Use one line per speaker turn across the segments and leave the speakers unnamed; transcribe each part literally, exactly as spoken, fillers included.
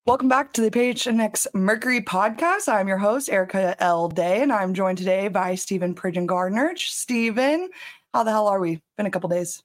Welcome back to the P H N X Mercury podcast. I'm your host, Erica L. Day, and I'm joined today by Stephen Pridgeon Gardner. Stephen, how the hell are we? Been a couple days.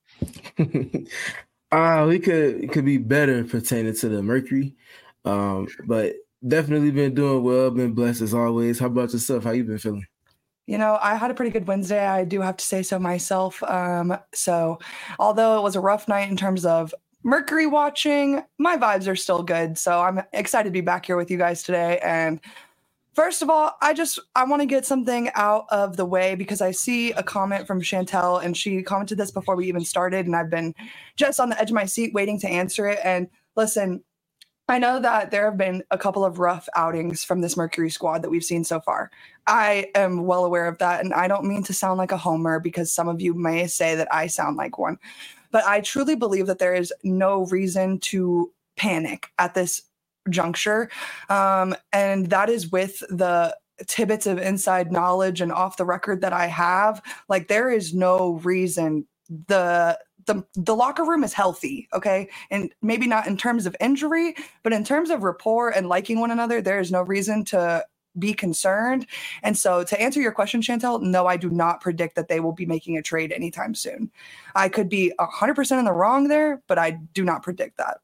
uh, we could it could be better pertaining to the Mercury, um, but definitely been doing well. Been blessed as always. How about yourself? How you been feeling?
You know, I had a pretty good Wednesday. I do have to say so myself. Um, so, although it was a rough night in terms of Mercury watching, my vibes are still good. So I'm excited to be back here with you guys today. And first of all, I just I want to get something out of the way because I see a comment from Chantel, and she commented this before we even started, and I've been just on the edge of my seat waiting to answer it. And listen, I know that there have been a couple of rough outings from this Mercury squad that we've seen so far. I am well aware of that, and I don't mean to sound like a homer because some of you may say that I sound like one. But I truly believe that there is no reason to panic at this juncture. Um, and that is with the tidbits of inside knowledge and off the record that I have. Like, there is no reason. The the the locker room is healthy, okay? And maybe not in terms of injury, but in terms of rapport and liking one another, there is no reason to be concerned. And so to answer your question, Chantel, no, I do not predict that they will be making a trade anytime soon. I could be one hundred percent in the wrong there, but I do not predict that.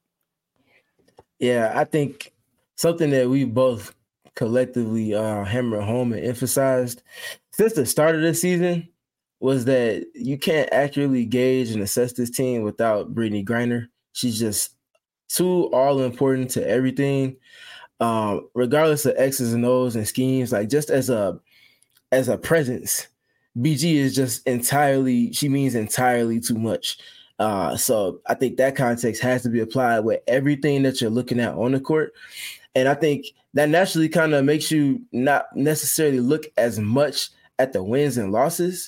Yeah, I think something that we both collectively uh, hammered home and emphasized since the start of the season was that you can't accurately gauge and assess this team without Brittney Griner. She's just too all-important to everything. Um, regardless of X's and O's and schemes, like just as a as a presence, B G is just entirely, she means entirely too much. Uh, so I think that context has to be applied with everything that you're looking at on the court. And I think that naturally kind of makes you not necessarily look as much at the wins and losses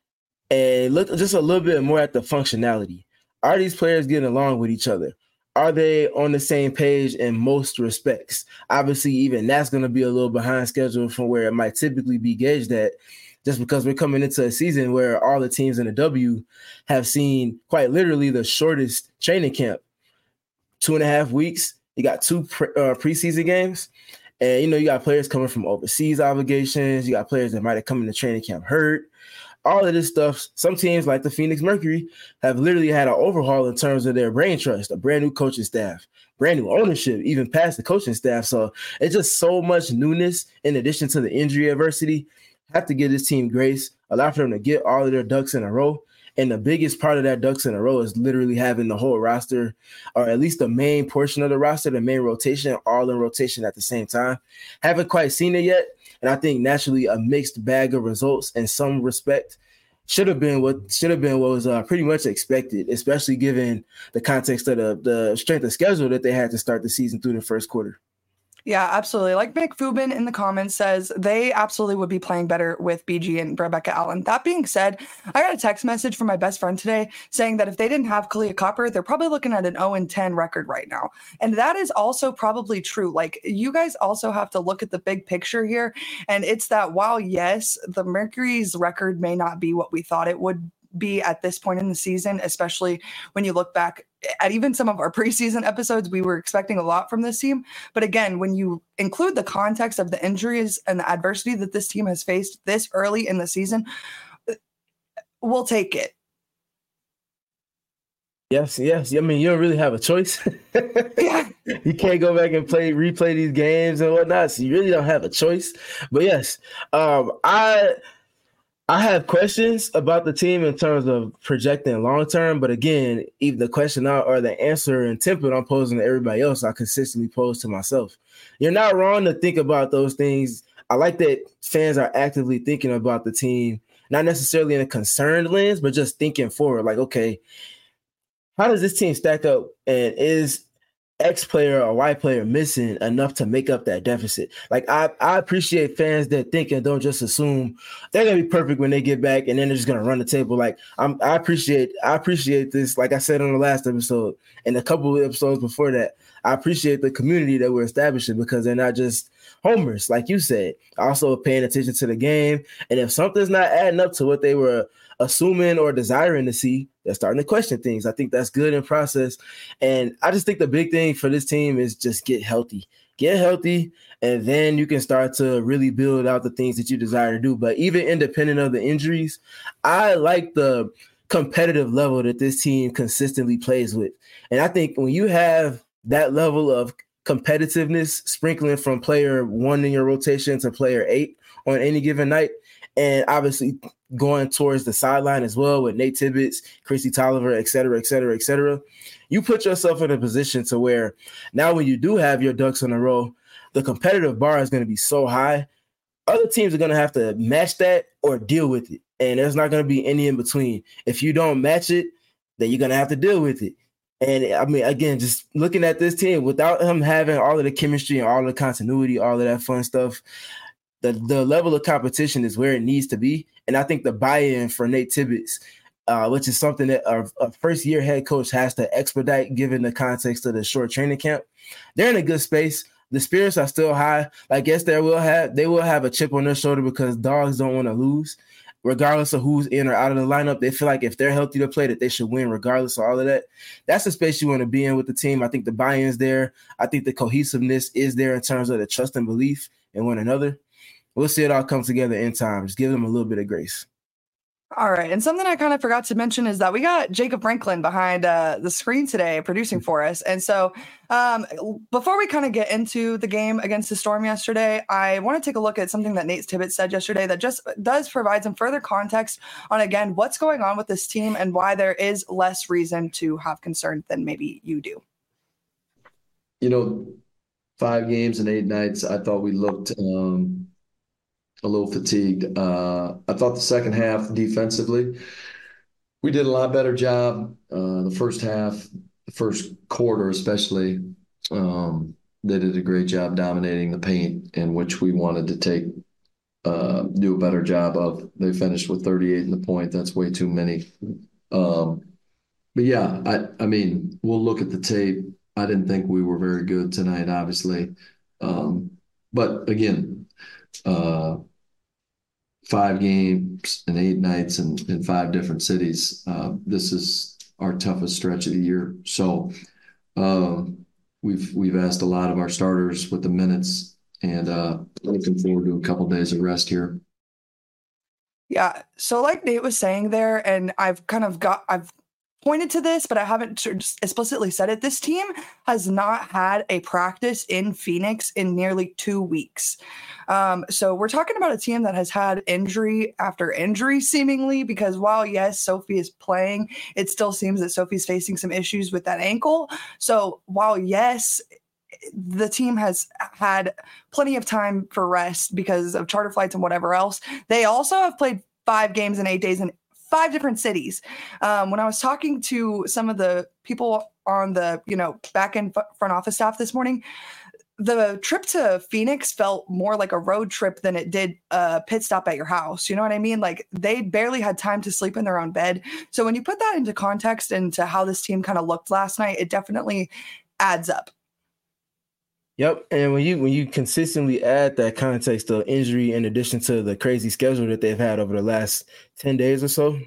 and look just a little bit more at the functionality. Are these players getting along with each other? Are they on the same page in most respects? Obviously, even that's going to be a little behind schedule from where it might typically be gauged at, just because we're coming into a season where all the teams in the W have seen quite literally the shortest training camp. Two and a half weeks. You got two pre- uh, preseason games. And, you know, you got players coming from overseas obligations. You got players that might have come into training camp hurt. All of this stuff, some teams like the Phoenix Mercury have literally had an overhaul in terms of their brain trust, a brand new coaching staff, brand new ownership, even past the coaching staff. So it's just so much newness in addition to the injury adversity. Have to give this team grace, allow for them to get all of their ducks in a row. And the biggest part of that ducks in a row is literally having the whole roster, or at least the main portion of the roster, the main rotation, all in rotation at the same time. Haven't quite seen it yet. And I think naturally a mixed bag of results in some respect should have been what should have been what was uh, pretty much expected, especially given the context of the, the strength of schedule that they had to start the season through the first quarter.
Yeah, absolutely. Like Mick Fubin in the comments says, they absolutely would be playing better with B G and Rebecca Allen. That being said, I got a text message from my best friend today saying that if they didn't have Kahleah Copper, they're probably looking at an oh and ten record right now. And that is also probably true. Like, you guys also have to look at the big picture here. And it's that while, yes, the Mercury's record may not be what we thought it would be at this point in the season, especially when you look back at even some of our preseason episodes, we were expecting a lot from this team. But again, when you include the context of the injuries and the adversity that this team has faced this early in the season, we'll take it.
Yes, yes. I mean, you don't really have a choice. Yeah. You can't go back and play, replay these games and whatnot. So you really don't have a choice. But yes, um, I I have questions about the team in terms of projecting long term, but again, even the question or the answer and template I'm posing to everybody else, I consistently pose to myself. You're not wrong to think about those things. I like that fans are actively thinking about the team, not necessarily in a concerned lens, but just thinking forward. Like, okay, how does this team stack up, and is X player or Y player missing enough to make up that deficit? Like, I, I appreciate fans that think and don't just assume they're gonna be perfect when they get back and then they're just gonna run the table. Like, I'm, I appreciate, I appreciate this. Like I said on the last episode and a couple of episodes before that, I appreciate the community that we're establishing because they're not just homers, like you said. Also paying attention to the game, and if something's not adding up to what they were assuming or desiring to see, they're starting to question things. I think that's good in process. And I just think the big thing for this team is just get healthy. Get healthy, and then you can start to really build out the things that you desire to do. But even independent of the injuries, I like the competitive level that this team consistently plays with. And I think when you have that level of competitiveness sprinkling from player one in your rotation to player eight on any given night, and obviously going towards the sideline as well with Nate Tibbetts, Chrissy Tolliver, et cetera, et cetera, et cetera, you put yourself in a position to where now when you do have your ducks in a row, the competitive bar is going to be so high. Other teams are going to have to match that or deal with it. And there's not going to be any in between. If you don't match it, then you're going to have to deal with it. And I mean, again, just looking at this team, without him having all of the chemistry and all of the continuity, all of that fun stuff, the, the level of competition is where it needs to be. And I think the buy-in for Nate Tibbetts, uh, which is something that a, a first-year head coach has to expedite given the context of the short training camp, they're in a good space. The spirits are still high. I guess they will have they will have a chip on their shoulder because dogs don't want to lose. Regardless of who's in or out of the lineup, they feel like if they're healthy to play, that they should win regardless of all of that. That's the space you want to be in with the team. I think the buy-in's there. I think the cohesiveness is there in terms of the trust and belief in one another. We'll see it all come together in time. Just give them a little bit of grace.
All right. And something I kind of forgot to mention is that we got Jacob Franklin behind uh, the screen today producing for us. And so um, before we kind of get into the game against the Storm yesterday, I want to take a look at something that Nate Tibbetts said yesterday that just does provide some further context on, again, what's going on with this team and why there is less reason to have concern than maybe you do.
You know, five games and eight nights, I thought we looked um, – a little fatigued. Uh, I thought the second half defensively, we did a lot better job. Uh, the first half, the first quarter especially, um, they did a great job dominating the paint, in which we wanted to take, uh, do a better job of. They finished with thirty-eight in the point. That's way too many. Um, but yeah, I, I mean, we'll look at the tape. I didn't think we were very good tonight, obviously. Um, but again, uh, five games and eight nights in, in five different cities. Uh, this is our toughest stretch of the year. So uh, we've we've asked a lot of our starters with the minutes, and uh, looking forward to a couple of days of rest here.
Yeah. So like Nate was saying there, and I've kind of got, I've pointed to this, but I haven't just explicitly said it. This team has not had a practice in Phoenix in nearly two weeks. Um, so we're talking about a team that has had injury after injury seemingly, because while yes, Sophie is playing, it still seems that Sophie's facing some issues with that ankle. So while yes, the team has had plenty of time for rest because of charter flights and whatever else, they also have played five games in eight days in five different cities. Um, when I was talking to some of the people on the, you know, back end front office staff this morning, the trip to Phoenix felt more like a road trip than it did a pit stop at your house. You know what I mean? Like they barely had time to sleep in their own bed. So when you put that into context into how this team kind of looked last night, it definitely adds up.
Yep, and when you when you consistently add that context of injury in addition to the crazy schedule that they've had over the last ten days or so,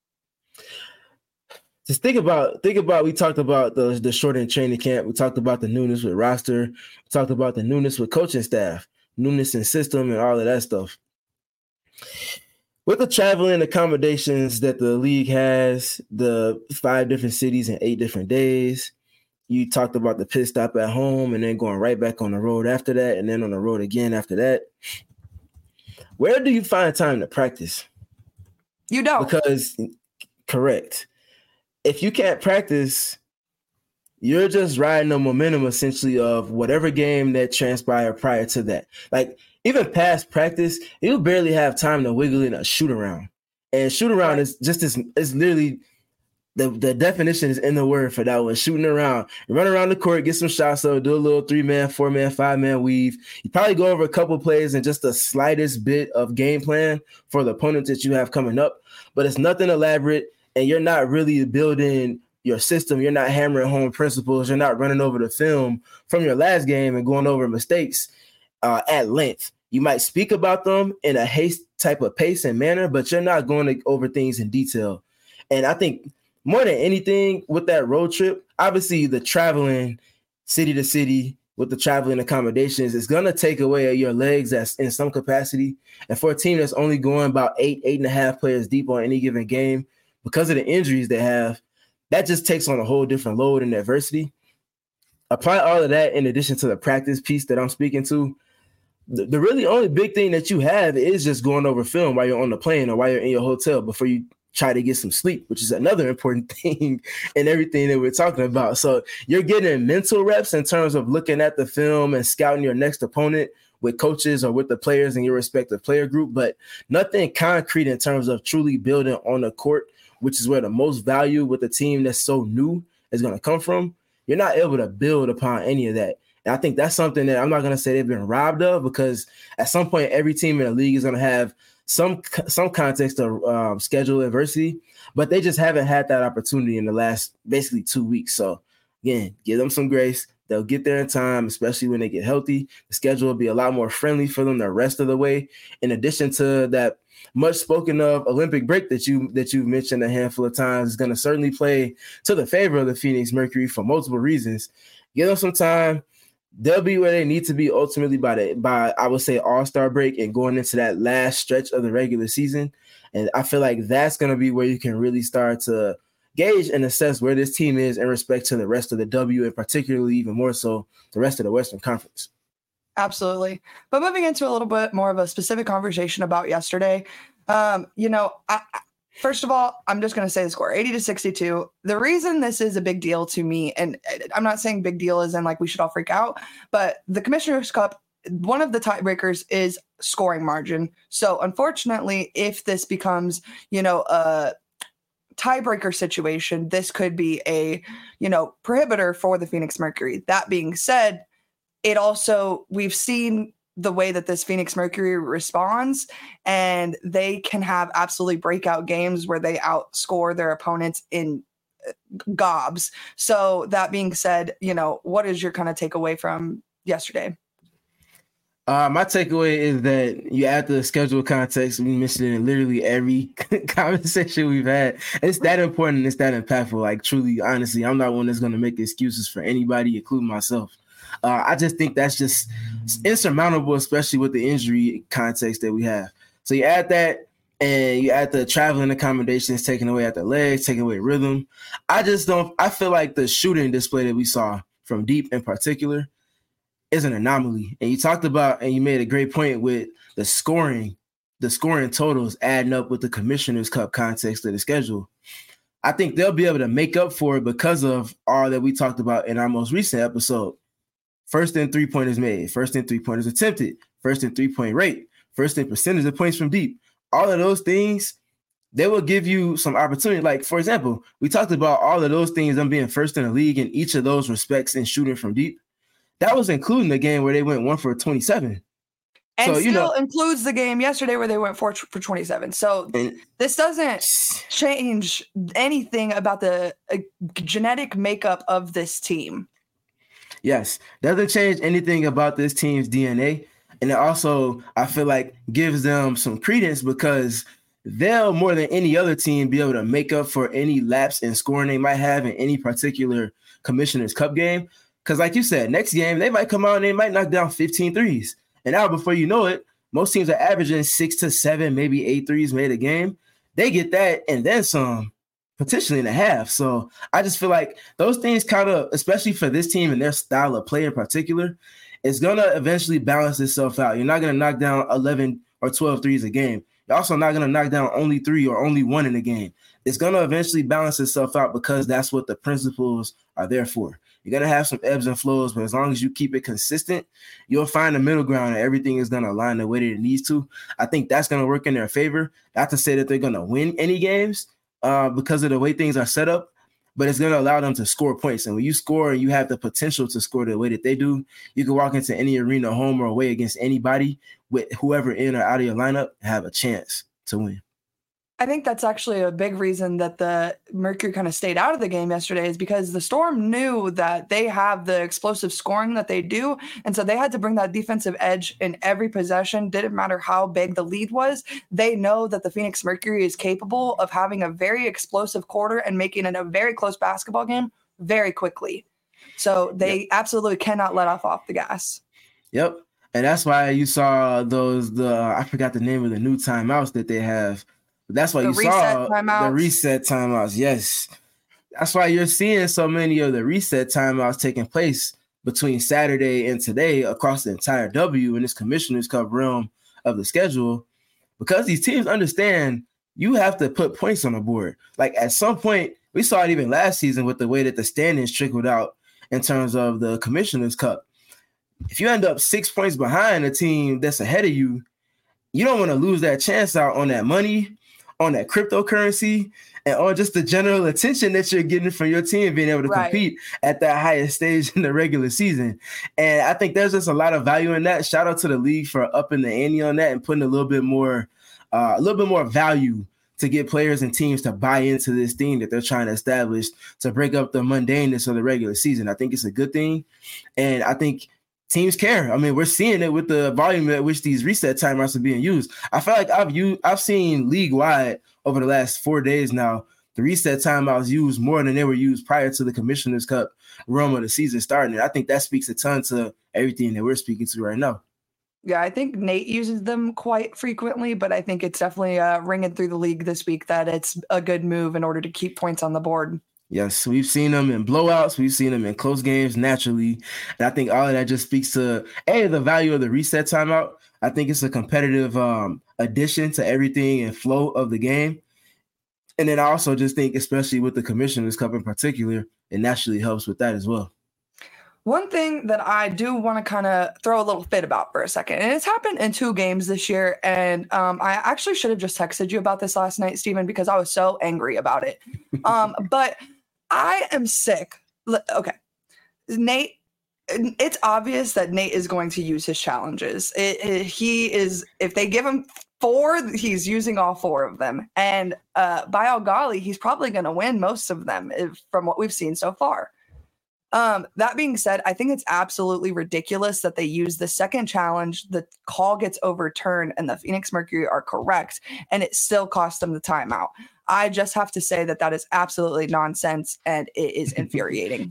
just think about think about we talked about the the shortened training camp, we talked about the newness with roster, we talked about the newness with coaching staff, newness in system, and all of that stuff. With the traveling accommodations that the league has, the five different cities in eight different days. You talked about the pit stop at home and then going right back on the road after that and then on the road again after that. Where do you find time to practice?
You don't.
Because, correct. If you can't practice, you're just riding the momentum essentially of whatever game that transpired prior to that. Like, even past practice, you barely have time to wiggle in a shoot around. And shoot around right. is just this, it's literally – The, the definition is in the word for that one, shooting around. You run around the court, get some shots up, do a little three-man, four-man, five-man weave. You probably go over a couple plays and just the slightest bit of game plan for the opponents that you have coming up. But it's nothing elaborate, and you're not really building your system. You're not hammering home principles. You're not running over the film from your last game and going over mistakes uh, at length. You might speak about them in a haste type of pace and manner, but you're not going to over things in detail. And I think more than anything with that road trip, obviously the traveling city to city with the traveling accommodations is going to take away your legs as in some capacity. And for a team that's only going about eight, eight and a half players deep on any given game, because of the injuries they have, that just takes on a whole different load and adversity. Apply all of that in addition to the practice piece that I'm speaking to. The, the really only big thing that you have is just going over film while you're on the plane or while you're in your hotel before you try to get some sleep, which is another important thing in everything that we're talking about. So you're getting mental reps in terms of looking at the film and scouting your next opponent with coaches or with the players in your respective player group, but nothing concrete in terms of truly building on the court, which is where the most value with a team that's so new is going to come from. You're not able to build upon any of that. And I think that's something that I'm not going to say they've been robbed of, because at some point, every team in the league is going to have some some context of um, schedule adversity, but they just haven't had that opportunity in the last basically two weeks. So again, give them some grace. They'll get there in time, especially when they get healthy. The schedule will be a lot more friendly for them the rest of the way. In addition to that much spoken of Olympic break that you that you've mentioned a handful of times is going to certainly play to the favor of the Phoenix Mercury for multiple reasons. Give them some time. They'll be where they need to be ultimately by the by I would say All-Star break and going into that last stretch of the regular season. And I feel like that's going to be where you can really start to gauge and assess where this team is in respect to the rest of the W, and particularly even more so the rest of the Western Conference.
Absolutely. But moving into a little bit more of a specific conversation about yesterday, um, you know, I, I, first of all, I'm just going to say the score, eighty to sixty-two. The reason this is a big deal to me, and I'm not saying big deal as in like we should all freak out, but the Commissioner's Cup, one of the tiebreakers is scoring margin. So unfortunately, if this becomes, you know, a tiebreaker situation, this could be a, you know, prohibitor for the Phoenix Mercury. That being said, it also, we've seen the way that this Phoenix Mercury responds, and they can have absolutely breakout games where they outscore their opponents in gobs. So that being said, you know, what is your kind of takeaway from yesterday?
Uh, my takeaway is that you add the schedule context. We mentioned it in literally every conversation we've had. It's that important. It's that impactful. Like, truly, honestly, I'm not one that's going to make excuses for anybody, including myself. Uh, I just think that's just insurmountable, especially with the injury context that we have. So you add that, and you add the traveling accommodations, taking away at the legs, taking away rhythm. I just don't – I feel like the shooting display that we saw from deep in particular is an anomaly. And you talked about, and you made a great point with the scoring, the scoring totals adding up with the Commissioner's Cup context of the schedule. I think they'll be able to make up for it because of all that we talked about in our most recent episode. First and three-pointers made, first and three-pointers attempted, first and three-point rate, first and percentage of points from deep. All of those things, they will give you some opportunity. Like, for example, we talked about all of those things, them being first in the league in each of those respects in shooting from deep. That was including the game where they went one for twenty-seven.
And
so,
still
you know,
includes the game yesterday where they went four for twenty-seven. So
and,
this doesn't change anything about the uh, genetic makeup of this team.
Yes, doesn't change anything about this team's D N A. And it also, I feel like, gives them some credence because they'll, more than any other team, be able to make up for any lapse in scoring they might have in any particular Commissioner's Cup game. Because like you said, next game, they might come out and they might knock down fifteen threes. And now before you know it, most teams are averaging six to seven, maybe eight threes made a game. They get that and then some, potentially in a half. So I just feel like those things kind of, especially for this team and their style of play in particular, it's going to eventually balance itself out. You're not going to knock down eleven or twelve threes a game. You're also not going to knock down only three or only one in a game. It's going to eventually balance itself out because that's what the principles are there for. You're going to have some ebbs and flows, but as long as you keep it consistent, you'll find a middle ground and everything is going to align the way that it needs to. I think that's going to work in their favor. Not to say that they're going to win any games uh, because of the way things are set up, but it's going to allow them to score points. And when you score and you have the potential to score the way that they do, you can walk into any arena, home or away, against anybody with whoever in or out of your lineup, have a chance to win.
I think that's actually a big reason that the Mercury kind of stayed out of the game yesterday, is because the Storm knew that they have the explosive scoring that they do. And so they had to bring that defensive edge in every possession. Didn't matter how big the lead was. They know that the Phoenix Mercury is capable of having a very explosive quarter and making it a very close basketball game very quickly. So they yep. absolutely cannot let off off the gas.
Yep. And that's why you saw those, the I forgot the name of the new timeouts that they have. That's why the you saw timeouts. the reset timeouts. Yes. That's why you're seeing so many of the reset timeouts taking place between Saturday and today across the entire W in this Commissioner's Cup realm of the schedule, because these teams understand you have to put points on the board. Like at some point, we saw it even last season with the way that the standings trickled out in terms of the Commissioner's Cup. If you end up six points behind a team that's ahead of you, you don't want to lose that chance out on that money, on that cryptocurrency, and on just the general attention that you're getting from your team being able to right. compete at that highest stage in the regular season. And I think there's just a lot of value in that. Shout out to the league for upping the ante on that and putting a little bit more, uh, a little bit more value to get players and teams to buy into this thing that they're trying to establish to break up the mundaneness of the regular season. I think it's a good thing. And I think teams care. I mean, we're seeing it with the volume at which these reset timeouts are being used. I feel like I've used, I've seen league-wide over the last four days now, the reset timeouts used more than they were used prior to the Commissioner's Cup realm of the season starting. And I think that speaks a ton to everything that we're speaking to right now.
Yeah, I think Nate uses them quite frequently, but I think it's definitely uh, ringing through the league this week that it's a good move in order to keep points on the board.
Yes, we've seen them in blowouts. We've seen them in close games naturally. And I think all of that just speaks to, A, the value of the reset timeout. I think it's a competitive um, addition to everything and flow of the game. And then I also just think, especially with the Commissioner's Cup in particular, it naturally helps with that as well.
One thing that I do want to kind of throw a little fit about for a second, and it's happened in two games this year, and um, I actually should have just texted you about this last night, Stephen, because I was so angry about it. Um, but I am sick. Okay. Nate, it's obvious that Nate is going to use his challenges. It, it, he is, if they give him four, he's using all four of them. And uh, by all golly, he's probably going to win most of them if, from what we've seen so far. Um, that being said, I think it's absolutely ridiculous that they use the second challenge, the call gets overturned, and the Phoenix Mercury are correct, and it still cost them the timeout. I just have to say that that is absolutely nonsense, and it is infuriating.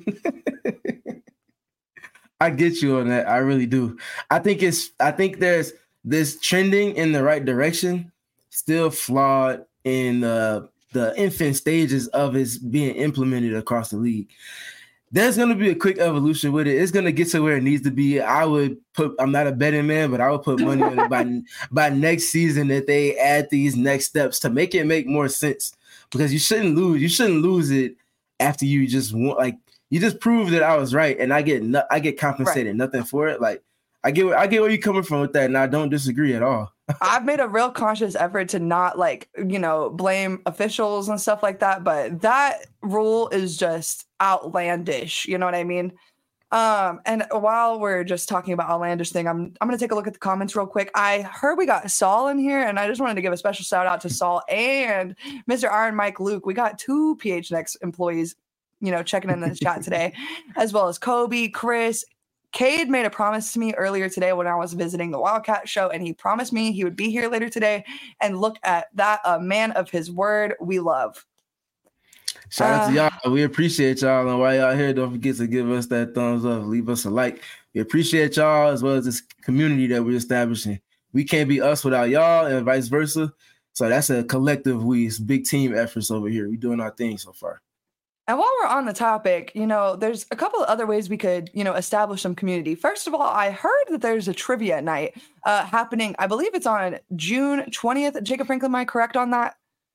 I get you on that. I really do. I think it's, I think there's this trending in the right direction, still flawed in the, the infant stages of its being implemented across the league. There's going to be a quick evolution with it. It's going to get to where it needs to be. I would put, I'm not a betting man, but I would put money on it by, by next season that they add these next steps to make it make more sense, because you shouldn't lose. You shouldn't lose it after you just want, like, you just prove that I was right and I get, no, I get compensated, right. nothing for it. Like, I get, I get where you're coming from with that, and I don't disagree at all.
I've made a real conscious effort to not, like, you know, blame officials and stuff like that, but that rule is just outlandish. You know what I mean? Um, and while we're just talking about outlandish thing, I'm I'm gonna take a look at the comments real quick. I heard we got Saul in here, and I just wanted to give a special shout out to Saul and Mister Iron Mike Luke. We got two P H N X employees, you know, checking in the chat today, as well as Kobe, Chris. Cade made a promise to me earlier today when I was visiting the Wildcat show, and he promised me he would be here later today. And look at that, a man of his word we love.
Shout out uh, to y'all. We appreciate y'all. And while y'all here, don't forget to give us that thumbs up, leave us a like. We appreciate y'all as well as this community that we're establishing. We can't be us without y'all and vice versa. So that's a collective we. It's big team efforts over here. We're doing our thing so far.
And while we're on the topic, you know, there's a couple of other ways we could, you know, establish some community. First of all, I heard that there's a trivia night uh, happening. I believe it's on June twentieth. Jacob Franklin, am I correct on that?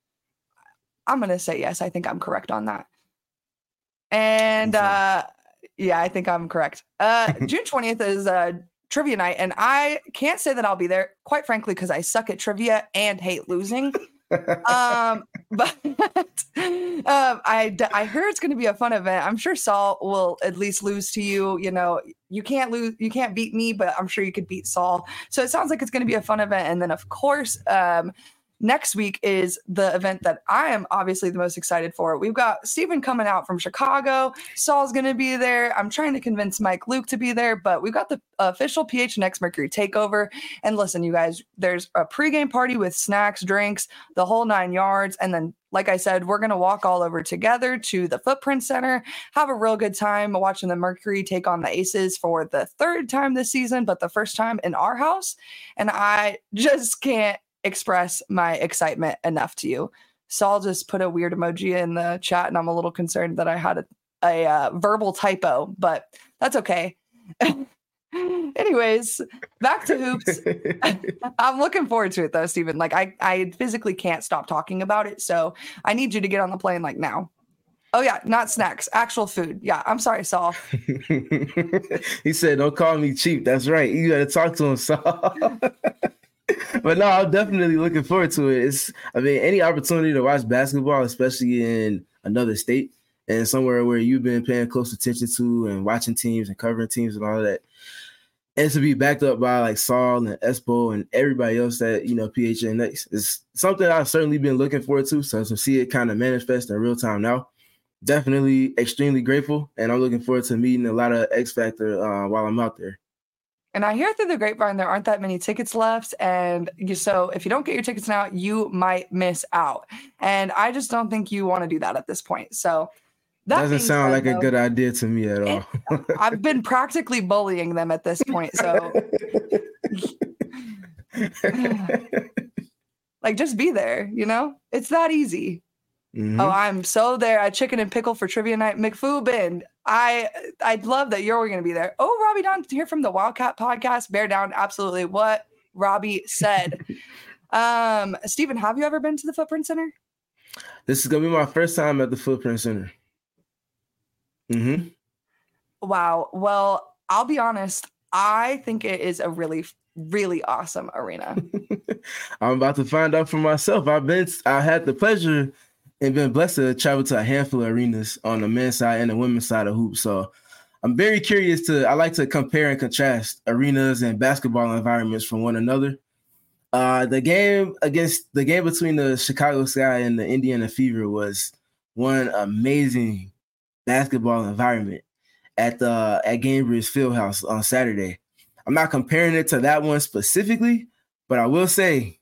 I'm going to say yes. I think I'm correct on that. And uh, yeah, I think I'm correct. Uh, June twentieth is a trivia night, and I can't say that I'll be there, quite frankly, because I suck at trivia and hate losing. um but um I I heard it's going to be a fun event. I'm sure Saul will at least lose to you. You know, you can't lose, you can't beat me, but I'm sure you could beat Saul. So it sounds like it's going to be a fun event. And then of course, um next week is the event that I am obviously the most excited for. We've got Steven coming out from Chicago. Saul's going to be there. I'm trying to convince Mike Luke to be there, but we've got the official P H N X Mercury takeover. And listen, you guys, there's a pregame party with snacks, drinks, the whole nine yards. And then, like I said, we're going to walk all over together to the Footprint Center, have a real good time watching the Mercury take on the Aces for the third time this season, but the first time in our house. And I just can't express my excitement enough to you. Saul just put a weird emoji in the chat, and I'm a little concerned that I had a, a uh, verbal typo, but that's okay. Anyways, back to hoops. I'm looking forward to it though, Steven. Like I, I physically can't stop talking about it, so I need you to get on the plane like now. Oh yeah, not snacks, actual food. Yeah, I'm sorry, Saul.
He said, "Don't call me cheap." That's right. You got to talk to him, Saul. But no, I'm definitely looking forward to it. It's, I mean, any opportunity to watch basketball, especially in another state and somewhere where you've been paying close attention to and watching teams and covering teams and all of that, and to be backed up by like Saul and Espo and everybody else that, you know, P H N X is something I've certainly been looking forward to. So to see it kind of manifest in real time now, definitely extremely grateful. And I'm looking forward to meeting a lot of X Factor uh, while I'm out there.
And I hear through the grapevine there aren't that many tickets left. And you, so if you don't get your tickets now, you might miss out. And I just don't think you want to do that at this point. So that
doesn't sound
said,
like
though,
a good idea to me at all.
it, I've been practically bullying them at this point. So like, just be there, you know, it's that easy. Mm-hmm. Oh, I'm so there at Chicken and Pickle for trivia night. McFoobin, I I'd love that you're going to be there. Oh, Robbie Down to hear from the Wildcat podcast. Bear down, absolutely what Robbie said. um, Steven, have you ever been to the Footprint Center?
This is gonna be my first time at the Footprint Center. Mm-hmm.
Wow. Well, I'll be honest. I think it is a really, really awesome arena.
I'm about to find out for myself. I've been, I had the pleasure and been blessed to travel to a handful of arenas on the men's side and the women's side of hoops. So I'm very curious to, I like to compare and contrast arenas and basketball environments from one another. Uh, the game against the game between the Chicago Sky and the Indiana Fever was one amazing basketball environment at the at Gainbridge Fieldhouse on Saturday. I'm not comparing it to that one specifically, but I will say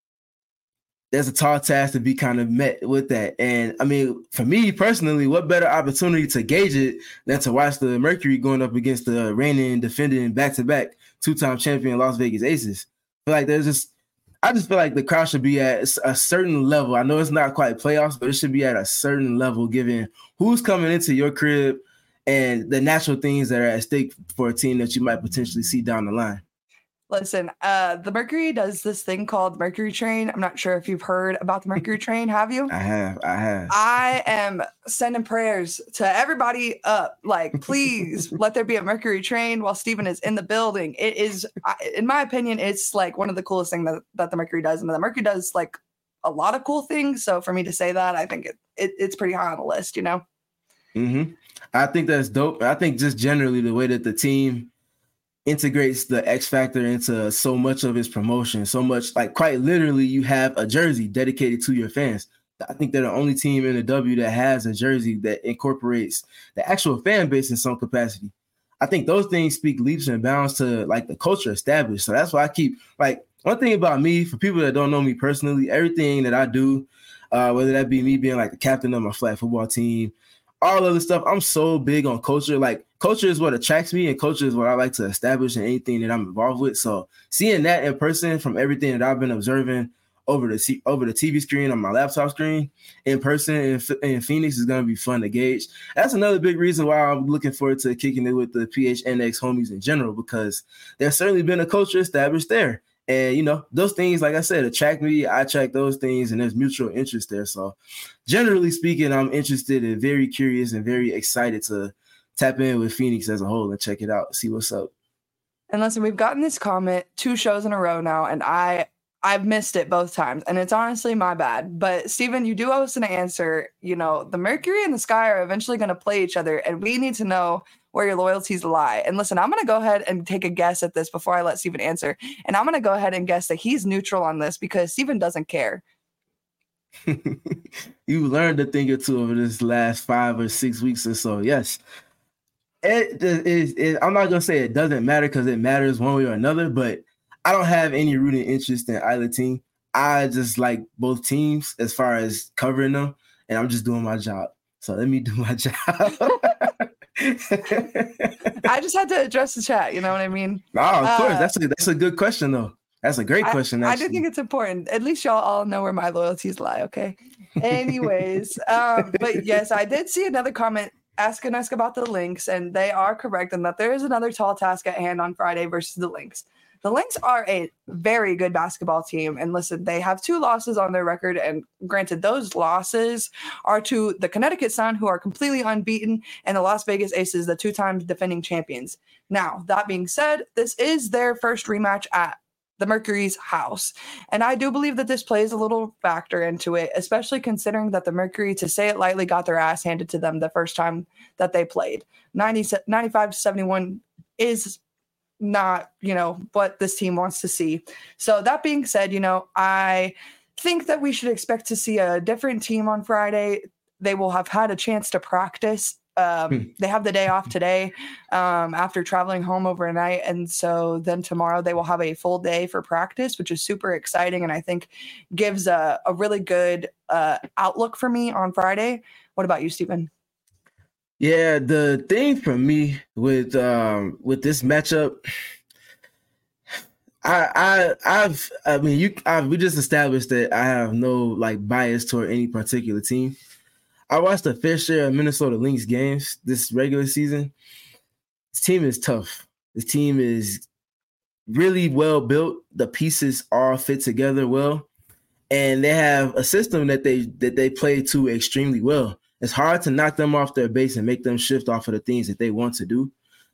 there's a tall task to be kind of met with that. And I mean, for me personally, what better opportunity to gauge it than to watch the Mercury going up against the reigning, defending back-to-back two-time champion Las Vegas Aces. I feel like there's just, I just feel like the crowd should be at a certain level. I know it's not quite playoffs, but it should be at a certain level given who's coming into your crib and the natural things that are at stake for a team that you might potentially see down the line.
Listen, uh, the Mercury does this thing called Mercury Train. I'm not sure if you've heard about the Mercury Train. Have you?
I have. I have.
I am sending prayers to everybody up. Like, please let there be a Mercury Train while Steven is in the building. It is, in my opinion, it's like one of the coolest things that, that the Mercury does. And the Mercury does like a lot of cool things. So for me to say that, I think it, it it's pretty high on the list, you know?
Mm-hmm. I think that's dope. I think just generally the way that the team integrates the X Factor into so much of its promotion, so much, like quite literally you have a jersey dedicated to your fans. I think they're the only team in the W that has a jersey that incorporates the actual fan base in some capacity. I think those things speak leaps and bounds to like the culture established. So that's why I keep like one thing about me, for people that don't know me personally, everything that I do, uh, whether that be me being like the captain of my flag football team, all of the stuff, I'm so big on culture. Like culture is what attracts me and culture is what I like to establish in anything that I'm involved with. So seeing that in person from everything that I've been observing over the t- over the T V screen on my laptop screen in person in, in Phoenix is going to be fun to gauge. That's another big reason why I'm looking forward to kicking it with the P H N X homies in general, because there's certainly been a culture established there. And, you know, those things, like I said, attract me. I attract those things, and there's mutual interest there. So generally speaking, I'm interested and very curious and very excited to tap in with Phoenix as a whole and check it out, see what's up.
And listen, we've gotten this comment two shows in a row now, and I, I've missed it both times, and it's honestly my bad. But, Steven, you do owe us an answer. You know, the Mercury and the Sky are eventually going to play each other, and we need to know where your loyalties lie. And listen, I'm going to go ahead and take a guess at this before I let Steven answer. And I'm going to go ahead and guess that he's neutral on this because Steven doesn't care.
You learned a thing or two over this last five or six weeks or so. Yes. It, it, it, it, I'm not going to say it doesn't matter because it matters one way or another, but I don't have any rooting interest in either team. I just like both teams as far as covering them, and I'm just doing my job. So let me do my job.
I just had to address the chat. You know what I mean?
No, of
uh,
course. That's a, that's a good question, though. That's a great question.
I, I do think it's important. At least y'all all know where my loyalties lie. Okay. Anyways, um, but yes, I did see another comment asking us about the Lynx, and they are correct in that there is another tall task at hand on Friday versus the Lynx. The Lynx are a very good basketball team. And listen, they have two losses on their record. And granted, those losses are to the Connecticut Sun, who are completely unbeaten, and the Las Vegas Aces, the two-time defending champions. Now, that being said, this is their first rematch at the Mercury's house. And I do believe that this plays a little factor into it, especially considering that the Mercury, to say it lightly, got their ass handed to them the first time that they played. ninety, ninety-five to seventy-one is not, you know, what this team wants to see. So that being said, you know, I think that we should expect to see a different team on Friday. They will have had a chance to practice. Um, they have the day off today um, after traveling home overnight. And so then tomorrow they will have a full day for practice, which is super exciting. And I think gives a, a really good uh, outlook for me on Friday. What about you, Stephen?
Yeah, the thing for me with um, with this matchup, I I I've I mean you I've, we just established that I have no like bias toward any particular team. I watched a fair share of Minnesota Lynx games this regular season. This team is tough. This team is really well built. The pieces all fit together well, and they have a system that they that they play to extremely well. It's hard to knock them off their base and make them shift off of the things that they want to do.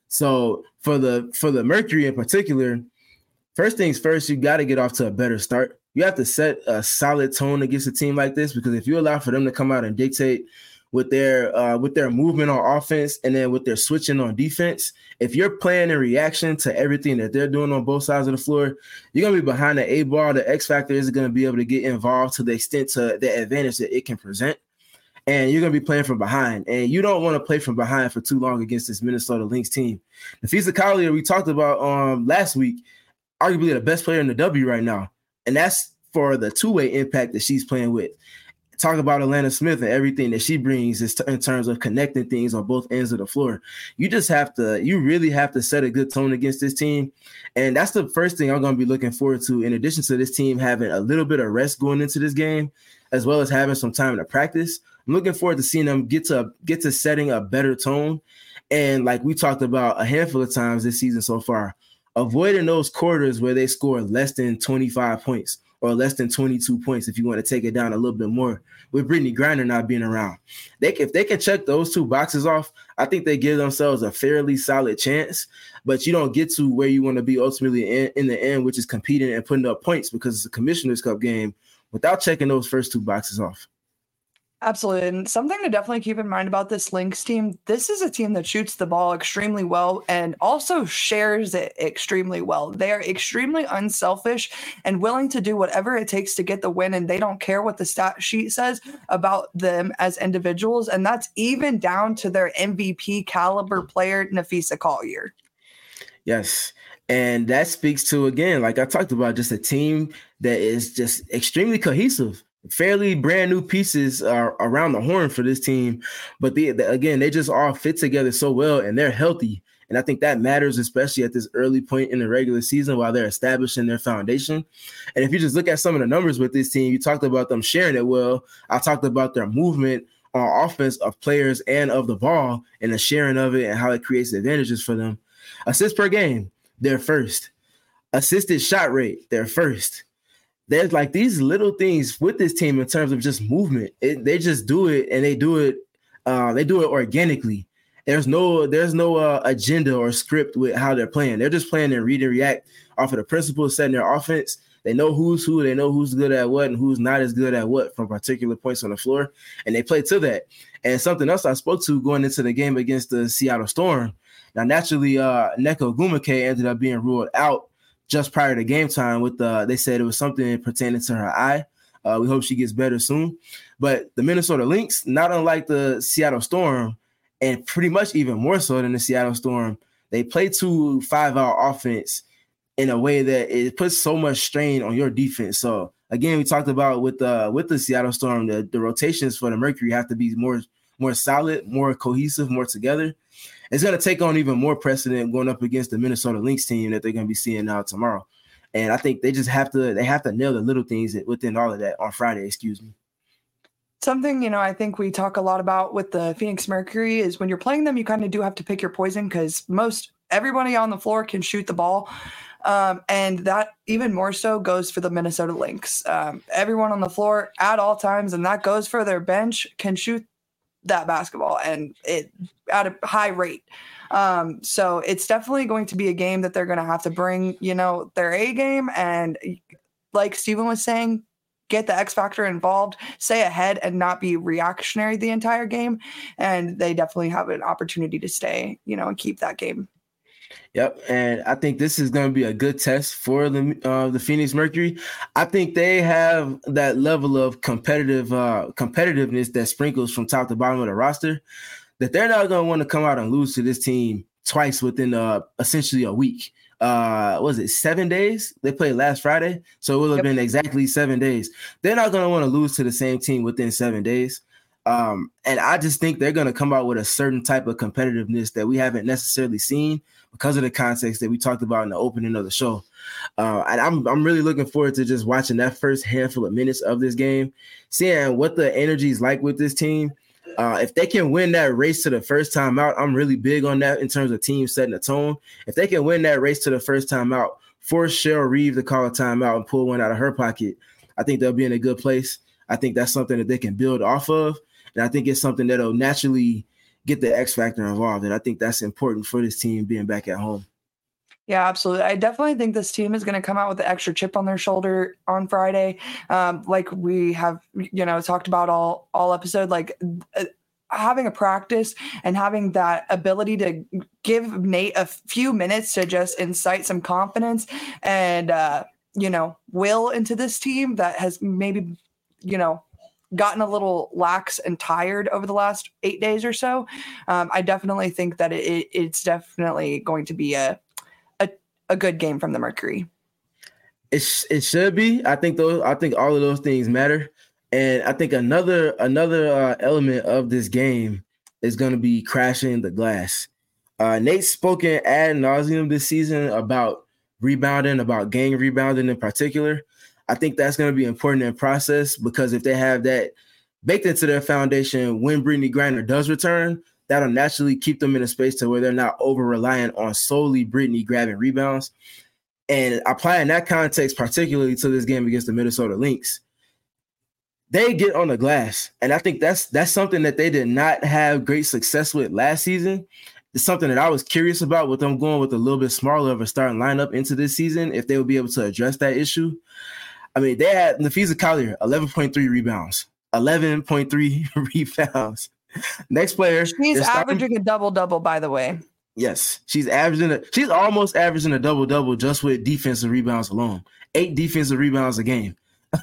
So for the for the Mercury in particular, first things first, you got to get off to a better start. You have to set a solid tone against a team like this, because if you allow for them to come out and dictate with their uh, with their movement on offense and then with their switching on defense, if you're playing in reaction to everything that they're doing on both sides of the floor, you're going to be behind the eight ball. The X factor isn't going to be able to get involved to the extent to the advantage that it can present. And you're going to be playing from behind. And you don't want to play from behind for too long against this Minnesota Lynx team. Napheesa Collier, we talked about um, last week, arguably the best player in the W right now. And that's for the two-way impact that she's playing with. Talk about Alanna Smith and everything that she brings is t- in terms of connecting things on both ends of the floor. You just have to, you really have to set a good tone against this team. And that's the first thing I'm going to be looking forward to, in addition to this team having a little bit of rest going into this game, as well as having some time to practice. I'm looking forward to seeing them get to get to setting a better tone. And like we talked about a handful of times this season so far, avoiding those quarters where they score less than twenty-five points or less than twenty-two points, if you want to take it down a little bit more, with Brittney Griner not being around. They, if they can check those two boxes off, I think they give themselves a fairly solid chance. But you don't get to where you want to be ultimately in, in the end, which is competing and putting up points, because it's a Commissioner's Cup game, without checking those first two boxes off.
Absolutely. And something to definitely keep in mind about this Lynx team, this is a team that shoots the ball extremely well and also shares it extremely well. They are extremely unselfish and willing to do whatever it takes to get the win, and they don't care what the stat sheet says about them as individuals. And that's even down to their M V P caliber player, Napheesa Collier.
Yes. And that speaks to, again, like I talked about, just a team that is just extremely cohesive. Fairly brand new pieces are around the horn for this team, but the, the, again, they just all fit together so well, and they're healthy. And I think that matters, especially at this early point in the regular season while they're establishing their foundation. And if you just look at some of the numbers with this team, you talked about them sharing it well. I talked about their movement on offense of players and of the ball and the sharing of it and how it creates advantages for them. Assists per game, they're first. Assisted shot rate, they're first. There's like these little things with this team in terms of just movement. It, they just do it, and they do it. Uh, they do it organically. There's no, there's no uh, agenda or script with how they're playing. They're just playing and read and react off of the principles setting their offense. They know who's who. They know who's good at what and who's not as good at what from particular points on the floor, and they play to that. And something else I spoke to going into the game against the Seattle Storm, Now, naturally, uh, Neko Gumake ended up being ruled out just prior to game time with the, they said it was something pertaining to her eye. Uh, we hope she gets better soon. But the Minnesota Lynx, not unlike the Seattle Storm, and pretty much even more so than the Seattle Storm, they play two five-out offense in a way that it puts so much strain on your defense. So, again, we talked about with the, with the Seattle Storm, the, the rotations for the Mercury have to be more, more solid, more cohesive, more together. It's going to take on even more precedent going up against the Minnesota Lynx team that they're going to be seeing now tomorrow. And I think they just have to, they have to nail the little things within all of that on Friday, excuse me.
Something, you know, I think we talk a lot about with the Phoenix Mercury is when you're playing them, you kind of do have to pick your poison because most everybody on the floor can shoot the ball. Um, and that even more so goes for the Minnesota Lynx. Um, everyone on the floor at all times, and that goes for their bench, can shoot that basketball and it at a high rate. Um, so it's definitely going to be a game that they're going to have to bring, you know, their A game. And like Steven was saying, get the X factor involved, stay ahead and not be reactionary the entire game. And they definitely have an opportunity to stay, you know, and keep that game.
Yep, and I think this is going to be a good test for the uh, the Phoenix Mercury. I think they have that level of competitive uh, competitiveness that sprinkles from top to bottom of the roster that they're not going to want to come out and lose to this team twice within uh, essentially a week. Uh, was it seven days? They played last Friday, so it will have yep. been exactly seven days. They're not going to want to lose to the same team within seven days. Um, and I just think they're going to come out with a certain type of competitiveness that we haven't necessarily seen because of the context that we talked about in the opening of the show. Uh, and I'm I'm really looking forward to just watching that first handful of minutes of this game, seeing what the energy is like with this team. Uh, if they can win that race to the first time out, I'm really big on that in terms of teams setting the tone. If they can win that race to the first time out, force Cheryl Reeve to call a timeout and pull one out of her pocket, I think they'll be in a good place. I think that's something that they can build off of. And I think it's something that'll naturally get the X factor involved. And I think that's important for this team being back at home.
Yeah, absolutely. I definitely think this team is going to come out with the extra chip on their shoulder on Friday. Um, like we have, you know, talked about all, all episode, like uh, having a practice and having that ability to give Nate a few minutes to just incite some confidence and, uh, you know, will into this team that has maybe, you know, gotten a little lax and tired over the last eight days or so. Um, I definitely think that it, it's definitely going to be a, a, a good game from the Mercury.
It, sh- it should be. I think those, I think all of those things matter. And I think another, another uh, element of this game is going to be crashing the glass. Uh, Nate's spoken ad nauseum this season about rebounding, about gang rebounding in particular. I think that's going to be important in process because if they have that baked into their foundation when Brittany Griner does return, that'll naturally keep them in a space to where they're not over-reliant on solely Brittany grabbing rebounds. And applying that context particularly to this game against the Minnesota Lynx, they get on the glass. And I think that's that's something that they did not have great success with last season. It's something that I was curious about with them going with a little bit smaller of a starting lineup into this season, if they would be able to address that issue. I mean, they had Nafisa Collier, eleven point three rebounds, eleven point three rebounds. Next player.
She's averaging starting, a double-double, by the way.
Yes, she's averaging a, she's almost averaging a double-double just with defensive rebounds alone. Eight defensive rebounds a game.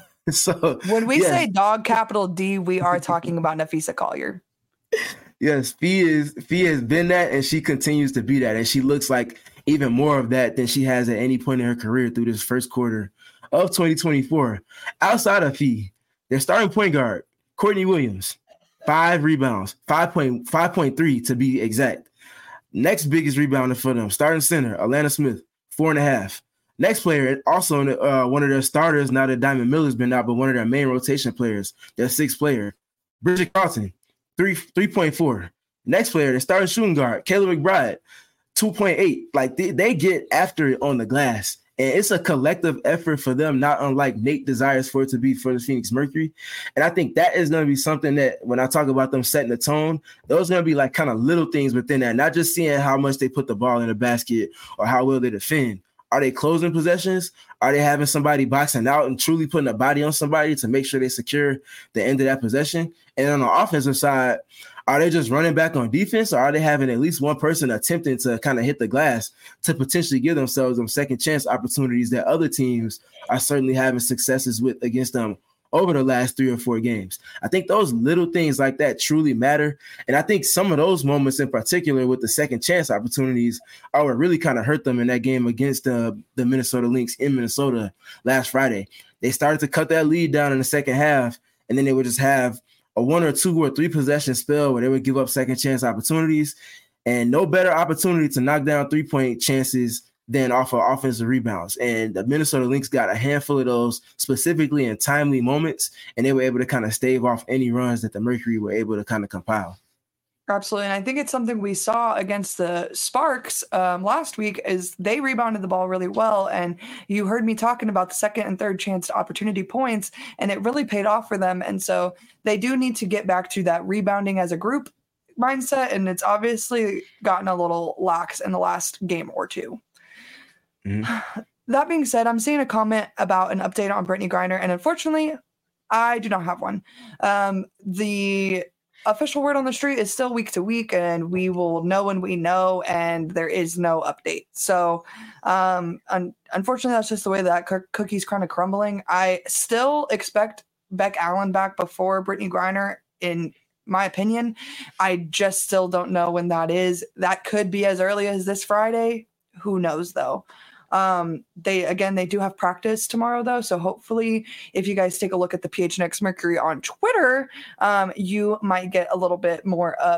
So
when we
yes.
say dog capital D, we are talking about Nafisa Collier.
Yes, Fee is Fee has been that, and she continues to be that, and she looks like even more of that than she has at any point in her career through this first quarter of twenty twenty-four. Outside of Fee, their starting point guard, Courtney Williams, five rebounds, five point five point three to be exact. Next biggest rebounder for them, starting center, Alana Smith, four and a half. Next player, also uh, one of their starters, now that Diamond Miller's been out, but one of their main rotation players, their sixth player, Bridget Carlton, three three point four. Next player, the starting shooting guard, Kayla McBride, two point eight. Like they, they get after it on the glass. And it's a collective effort for them, not unlike Nate desires for it to be for the Phoenix Mercury. And I think that is going to be something that when I talk about them setting the tone, those are going to be like kind of little things within that, not just seeing how much they put the ball in the basket or how well they defend. Are they closing possessions? Are they having somebody boxing out and truly putting a body on somebody to make sure they secure the end of that possession? And on the offensive side, Are they just running back on defense, or are they having at least one person attempting to kind of hit the glass to potentially give themselves some second chance opportunities that other teams are certainly having successes with against them over the last three or four games? I think those little things like that truly matter. And I think some of those moments in particular with the second chance opportunities are what really kind of hurt them in that game against uh, the Minnesota Lynx in Minnesota last Friday. They started to cut that lead down in the second half, and then they would just have a one or two or three possession spell where they would give up second chance opportunities, and no better opportunity to knock down three-point chances than off of offensive rebounds. And the Minnesota Lynx got a handful of those specifically in timely moments, and they were able to kind of stave off any runs that the Mercury were able to kind of compile.
Absolutely. And I think it's something we saw against the Sparks um, last week is they rebounded the ball really well. And you heard me talking about the second and third chance opportunity points, and it really paid off for them. And so they do need to get back to that rebounding as a group mindset. And it's obviously gotten a little lax in the last game or two. Mm-hmm. That being said, I'm seeing a comment about an update on Brittney Griner, and unfortunately, I do not have one. Um, the official word on the street is still week to week, and we will know when we know, and there is no update. So, um, un- unfortunately, that's just the way that co- cookie's kind of crumbling. I still expect Beck Allen back before Brittney Griner, in my opinion. I just still don't know when that is. That could be as early as this Friday. Who knows, though? Um, they, again, they do have practice tomorrow though. So hopefully if you guys take a look at the P H N X Mercury on Twitter, um, you might get a little bit more of,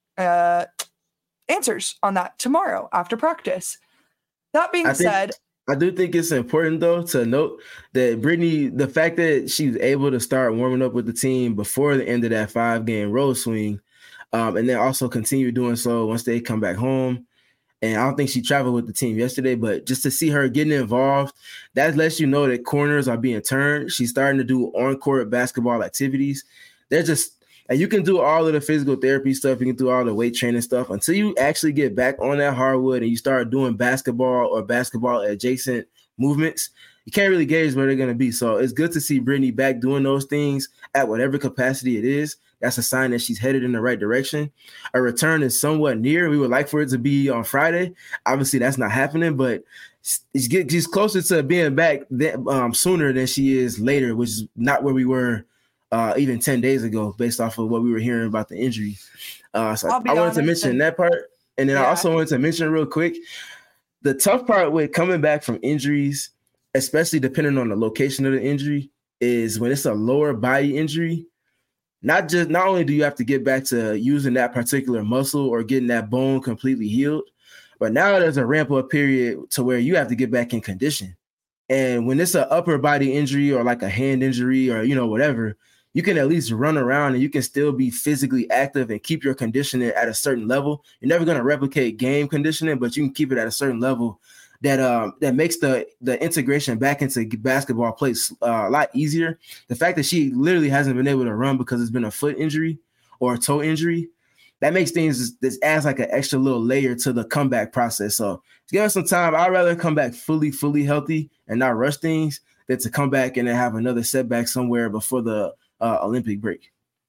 uh, answers on that tomorrow after practice. That being
I think,
said,
I do think it's important though to note that Brittney, the fact that she's able to start warming up with the team before the end of that five game road swing, um, and then also continue doing so once they come back home. And I don't think she traveled with the team yesterday, but just to see her getting involved, that lets you know that corners are being turned. She's starting to do on-court basketball activities. They're just, and you can do all of the physical therapy stuff. You can do all the weight training stuff until you actually get back on that hardwood and you start doing basketball or basketball adjacent movements. You can't really gauge where they're going to be. So it's good to see Brittney back doing those things at whatever capacity it is. That's a sign that she's headed in the right direction. A return is somewhat near. We would like for it to be on Friday. Obviously, that's not happening, but she's closer to being back than, um, sooner than she is later, which is not where we were uh, even ten days ago, based off of what we were hearing about the injury. Uh, so I wanted
honest,
to mention
and,
that part. And then yeah. I also wanted to mention real quick, the tough part with coming back from injuries, especially depending on the location of the injury, is when it's a lower body injury. Not just not only do you have to get back to using that particular muscle or getting that bone completely healed, but now there's a ramp up period to where you have to get back in condition. And when it's an upper body injury or like a hand injury or, you know, whatever, you can at least run around and you can still be physically active and keep your conditioning at a certain level. You're never going to replicate game conditioning, but you can keep it at a certain level that um that makes the the integration back into basketball play uh, a lot easier. The fact that she literally hasn't been able to run because it's been a foot injury or a toe injury, that makes things, this adds like an extra little layer to the comeback process. So give us some time. I'd rather come back fully, fully healthy and not rush things than to come back and then have another setback somewhere before the uh, Olympic break.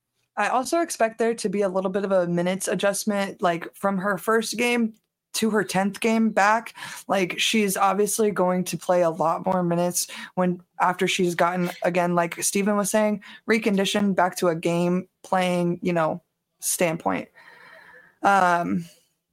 I also expect there to be a little bit of a minutes adjustment, like from her first game to her tenth game back. Like she's obviously going to play a lot more minutes when after she's gotten, again, like Steven was saying, reconditioned back to a game playing, you know, standpoint. Um,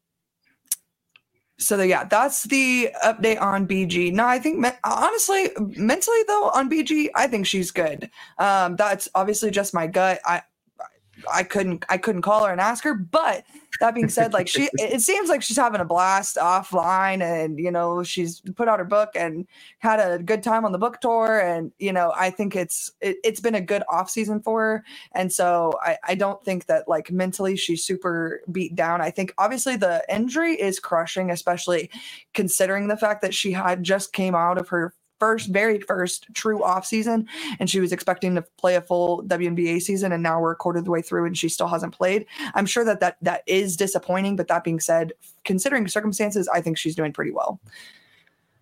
so the, yeah, that's the update on B G. No, I think me- honestly, mentally though, on B G, I think she's good. Um, that's obviously just my gut. I, I couldn't, I couldn't call her and ask her, but that being said, like she, it seems like she's having a blast offline, and you know she's put out her book and had a good time on the book tour, and you know I think it's it, it's been a good off season for her, and so I, I don't think that like mentally she's super beat down. I think obviously the injury is crushing, especially considering the fact that she had just came out of her first, very first true off season, and she was expecting to play a full W N B A season, and now we're a quarter of the way through and she still hasn't played. I'm sure that that, that is disappointing, but that being said, considering circumstances, I think she's doing pretty well.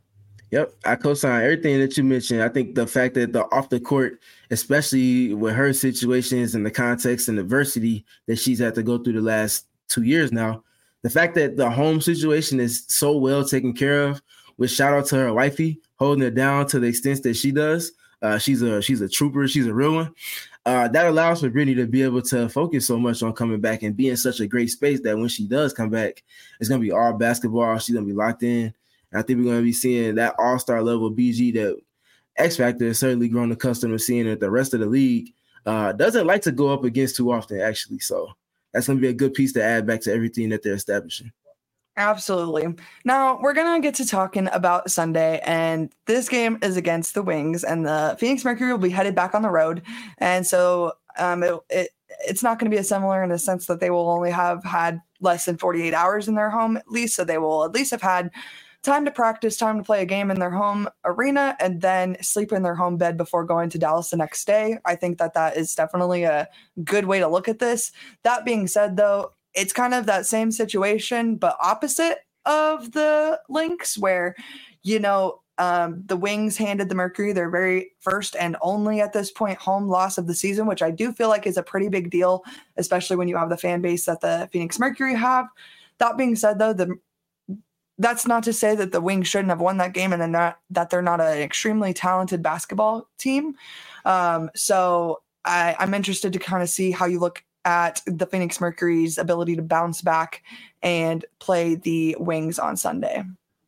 Yep, I co-sign everything that you mentioned. I think the fact that the off the court, especially with her situations and the context and adversity that she's had to go through the last two years now, the fact that the home situation is so well taken care of, with shout out to her wifey holding it down to the extent that she does. Uh, she's a she's a trooper. She's a real one. Uh, that allows for Brittany to be able to focus so much on coming back and be in such a great space that when she does come back, it's going to be all basketball. She's going to be locked in. I think we're going to be seeing that all-star level B G that X Factor has certainly grown accustomed to seeing that the rest of the league uh, doesn't like to go up against too often, actually. So that's going to be a good piece to add back to everything that they're establishing.
Absolutely. Now we're going to get to talking about Sunday, and this game is against the Wings, and the Phoenix Mercury will be headed back on the road. And so um, it, it it's not going to be a similar in the sense that they will only have had less than forty-eight hours in their home, at least. So they will at least have had time to practice, time to play a game in their home arena, and then sleep in their home bed before going to Dallas the next day. I think that that is definitely a good way to look at this. That being said, though, it's kind of that same situation, but opposite of the Lynx, where, you know, um, the Wings handed the Mercury their very first and only at this point home loss of the season, which I do feel like is a pretty big deal, especially when you have the fan base that the Phoenix Mercury have. That being said, though, the that's not to say that the Wings shouldn't have won that game and they're not, that they're not an extremely talented basketball team. Um, so I, I'm interested to kind of see how you look at the Phoenix Mercury's ability to bounce back and play the Wings on Sunday.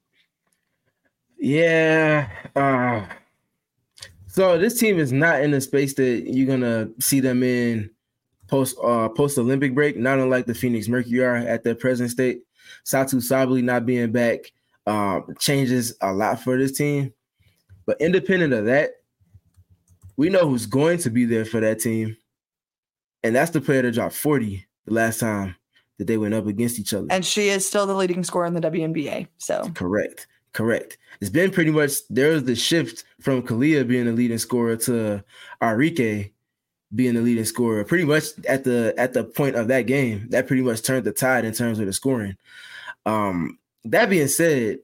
Yeah. Uh, so this team is not in a space that you're going to see them in post uh, post-Olympic break, not unlike the Phoenix Mercury are at their present state. Satou Sabally not being back um, changes a lot for this team. But independent of that, we know who's going to be there for that team. And that's the player that dropped forty the last time that they went up against each other.
And she is still the leading scorer in the W N B A. So
correct. Correct. It's been pretty much, there's the shift from Kalia being the leading scorer to Arike being the leading scorer. Pretty much at the at the point of that game, that pretty much turned the tide in terms of the scoring. Um, that being said,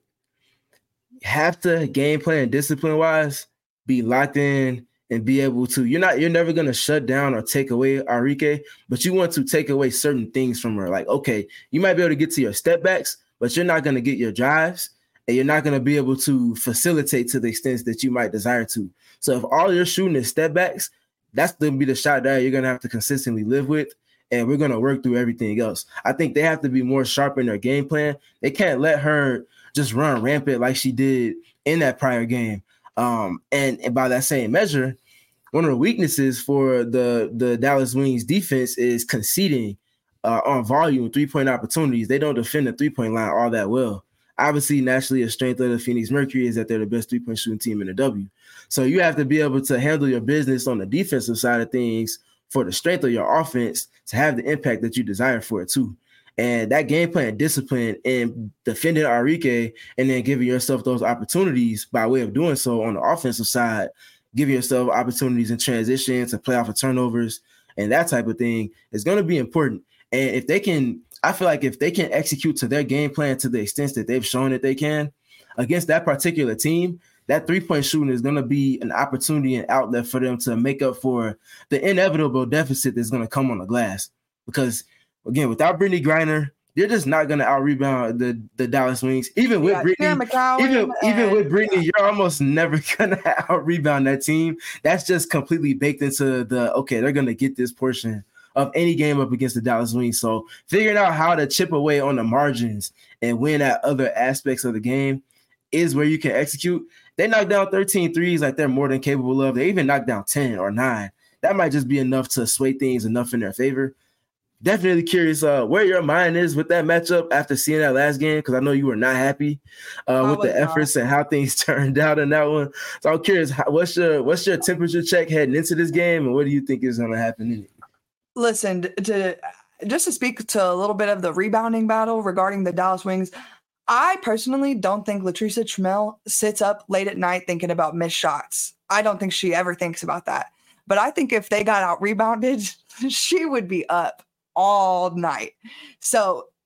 you have to game plan discipline wise be locked in and be able to, you're not, you're never going to shut down or take away Arike, but you want to take away certain things from her. Like, okay, you might be able to get to your step backs, but you're not going to get your drives and you're not going to be able to facilitate to the extent that you might desire to. So if all you're shooting is step backs, that's going to be the shot that you're going to have to consistently live with. And we're going to work through everything else. I think they have to be more sharp in their game plan. They can't let her just run rampant like she did in that prior game. Um, and, and by that same measure, one of the weaknesses for the, the Dallas Wings defense is conceding uh, on volume three-point opportunities. They don't defend the three-point line all that well. Obviously, naturally, a strength of the Phoenix Mercury is that they're the best three-point shooting team in the W. So you have to be able to handle your business on the defensive side of things for the strength of your offense to have the impact that you desire for it too. And that game plan discipline and defending Arike and then giving yourself those opportunities by way of doing so on the offensive side, giving yourself opportunities in transition to play off of turnovers and that type of thing is going to be important. And if they can, I feel like if they can execute to their game plan to the extent that they've shown that they can against that particular team, that three-point shooting is going to be an opportunity and outlet for them to make up for the inevitable deficit that's going to come on the glass. Because, again, without Brittany Griner, you're just not going to out-rebound the, the Dallas Wings. Even with Brittany, even, even with Brittany, yeah. You're almost never going to out-rebound that team. That's just completely baked into the, okay, they're going to get this portion of any game up against the Dallas Wings. So figuring out how to chip away on the margins and win at other aspects of the game is where you can execute. They knocked down thirteen threes like they're more than capable of. They even knocked down ten or nine. That might just be enough to sway things enough in their favor. Definitely curious uh, where your mind is with that matchup after seeing that last game, because I know you were not happy uh, with the efforts not. and how things turned out in that one. So I'm curious, how, what's your what's your temperature check heading into this game, and what do you think is going to happen in it?
Listen, to just to speak to a little bit of the rebounding battle regarding the Dallas Wings, I personally don't think Latricia Trammell sits up late at night thinking about missed shots. I don't think she ever thinks about that. But I think if they got out rebounded, she would be up all night. So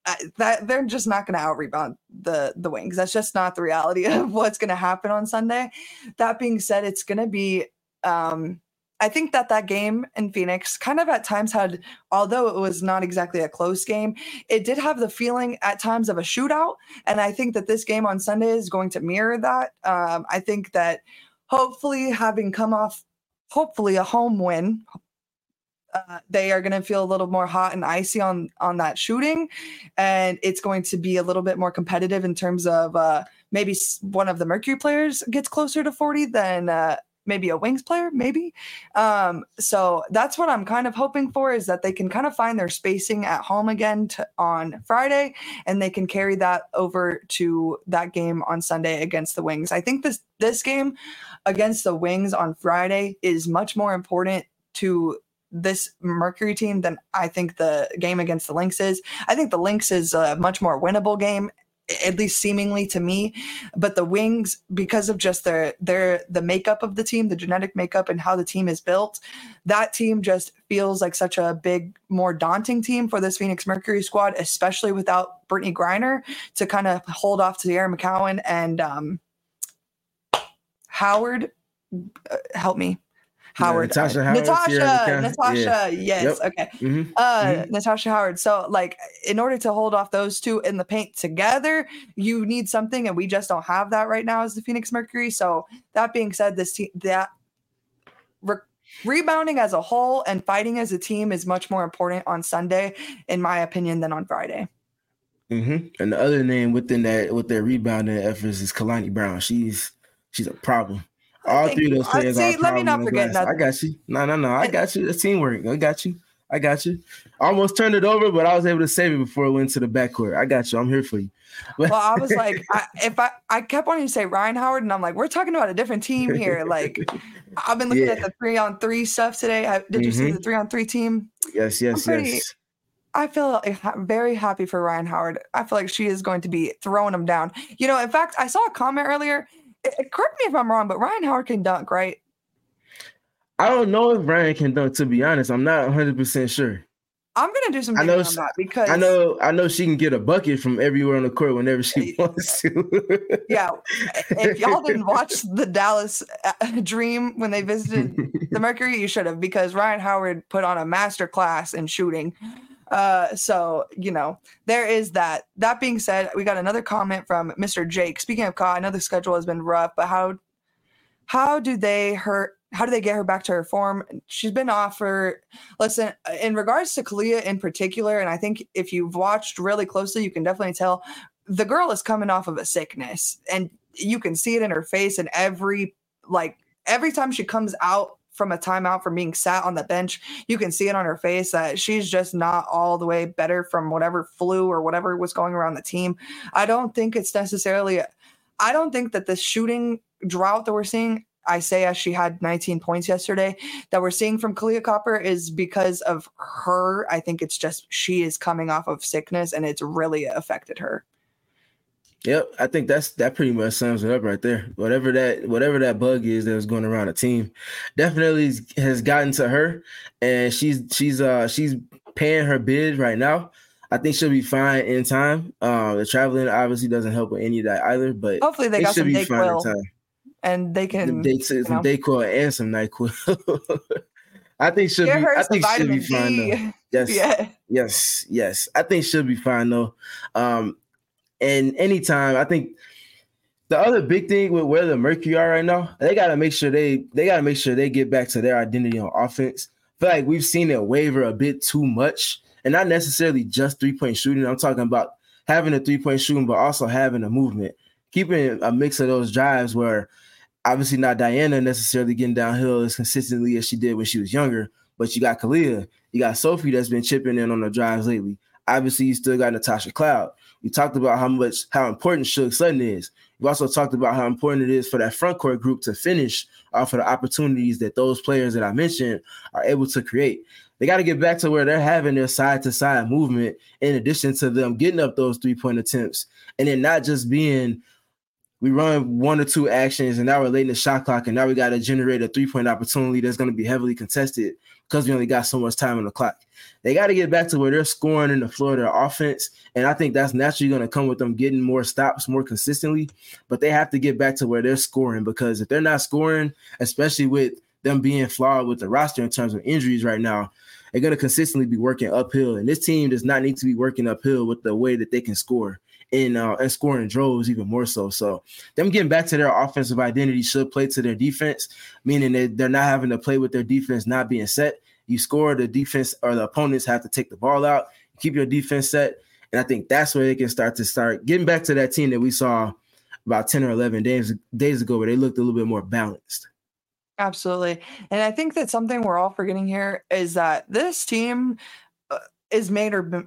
uh, that they're just not going to out rebound the the Wings. That's just not the reality of what's going to happen on Sunday. That being said, it's going to be. Um, I think that that game in Phoenix kind of at times had, although it was not exactly a close game, it did have the feeling at times of a shootout. And I think that this game on Sunday is going to mirror that. Um, I think that hopefully having come off, hopefully a home win, uh, they are going to feel a little more hot and icy on, on that shooting. And it's going to be a little bit more competitive in terms of uh, maybe one of the Mercury players gets closer to forty than uh, maybe a Wings player, maybe. Um, so that's what I'm kind of hoping for, is that they can kind of find their spacing at home again to, on Friday, and they can carry that over to that game on Sunday against the Wings. I think this this game against the Wings on Friday is much more important to this Mercury team than I think the game against the Lynx is. I think the Lynx is a much more winnable game, at least seemingly to me, but the Wings, because of just their their the makeup of the team, the genetic makeup and how the team is built, that team just feels like such a big, more daunting team for this Phoenix Mercury squad, especially without Brittany Griner to kind of hold off to Sierra McCowan and um, Howard. Uh, help me. Howard,
yeah, Natasha,
uh,
Howard,
Natasha, Natasha,
yeah.
yes,
Yep.
okay,
Mm-hmm.
uh,
Mm-hmm.
Natasha Howard. So, like, in order to hold off those two in the paint together, you need something, and we just don't have that right now as the Phoenix Mercury. So, that being said, this team, that re- rebounding as a whole and fighting as a team is much more important on Sunday, in my opinion, than on Friday.
Mm-hmm. And the other name within that, with their rebounding efforts, is Kalani Brown. She's she's a problem. All
Thank
three
you.
of those players
See,
are
let me not
problem
forget
glass. I
nothing.
got you. No, no, no. I
And-
got you. It's teamwork. I got you. I got you. I almost turned it over, but I was able to save it before it went to the backcourt. I got you. I'm here for you.
Well, I was like, I, if I, I kept wanting to say Ryan Howard, and I'm like, we're talking about a different team here. Like, I've been looking
Yeah.
at the three on three stuff today. I, did you see
Mhm.
the three on three team?
Yes, yes,
I'm pretty-
yes.
I feel ha- very happy for Ryan Howard. I feel like she is going to be throwing him down. You know, in fact, I saw a comment earlier. It, it- correct me if I'm wrong, but Ryan Howard can dunk, right?
I don't know if Ryan can dunk, to be honest. I'm not one hundred percent sure.
I'm gonna do some
I know
digging on that because
I know I know she can get a bucket from everywhere on the court whenever she wants to.
yeah, if y'all didn't watch the Dallas uh, Dream when they visited the Mercury, you should have, because Ryan Howard put on a master class in shooting. Uh, so, you know, there is that. That being said, we got another comment from Mister Jake. Speaking of Ka, I know the schedule has been rough, but how how do they her how do they get her back to her form? She's been off for, listen, in regards to Kalia in particular, and I think if you've watched really closely, you can definitely tell the girl is coming off of a sickness, and you can see it in her face. And every, like, every time she comes out from a timeout from being sat on the bench, you can see it on her face that she's just not all the way better from whatever flu or whatever was going around the team. I don't think it's necessarily, I don't think that this shooting drought that we're seeing, Isaiah, she had nineteen points yesterday, that we're seeing from Kalia Copper is because of her. I think it's just she is coming off of sickness and it's really affected her.
Yep, I think that's that pretty much sums it up right there. Whatever that whatever that bug is that was going around the team, definitely has gotten to her, and she's she's uh she's paying her bid right now. I think she'll be fine in time. Uh, the traveling obviously doesn't help with any of that either, but
Hopefully they
it
got
should
some
be fine in
Dayquil
time.
and they can
Some, day, some
you know,
Dayquil and some NyQuil. I think she'll
get
be.
her
I
some
think she'll be
vitamin
fine
D.
though. Yes,
Yeah.
yes, yes. I think she'll be fine though. Um, and anytime, I think the other big thing with where the Mercury are right now, they got to make sure they they got to make sure they get back to their identity on offense. I feel like we've seen it waver a bit too much, and not necessarily just three point shooting. I'm talking about having a three point shooting, but also having a movement, keeping a mix of those drives where obviously not Diana necessarily getting downhill as consistently as she did when she was younger, but you got Kalia, you got Sophie that's been chipping in on the drives lately. Obviously, you still got Natasha Cloud. We talked about how much how important Suge Sutton is. We also talked about how important it is for that front court group to finish off of the opportunities that those players that I mentioned are able to create. They got to get back to where they're having their side-to-side movement in addition to them getting up those three-point attempts, and then not just being we run one or two actions, and now we're late in the shot clock, and now we got to generate a three-point opportunity that's going to be heavily contested because we only got so much time on the clock. They got to get back to where they're scoring in the floor of their offense, and I think that's naturally going to come with them getting more stops more consistently, but they have to get back to where they're scoring, because if they're not scoring, especially with them being flawed with the roster in terms of injuries right now, they're going to consistently be working uphill, and this team does not need to be working uphill with the way that they can score. In, uh, and scoring droves even more so. So them getting back to their offensive identity should play to their defense, meaning that they're not having to play with their defense not being set. You score, the defense or the opponents have to take the ball out, keep your defense set. And I think that's where they can start to start getting back to that team that we saw about ten or eleven days, days ago, where they looked a little bit more balanced.
Absolutely. And I think that something we're all forgetting here is that this team uh, is made or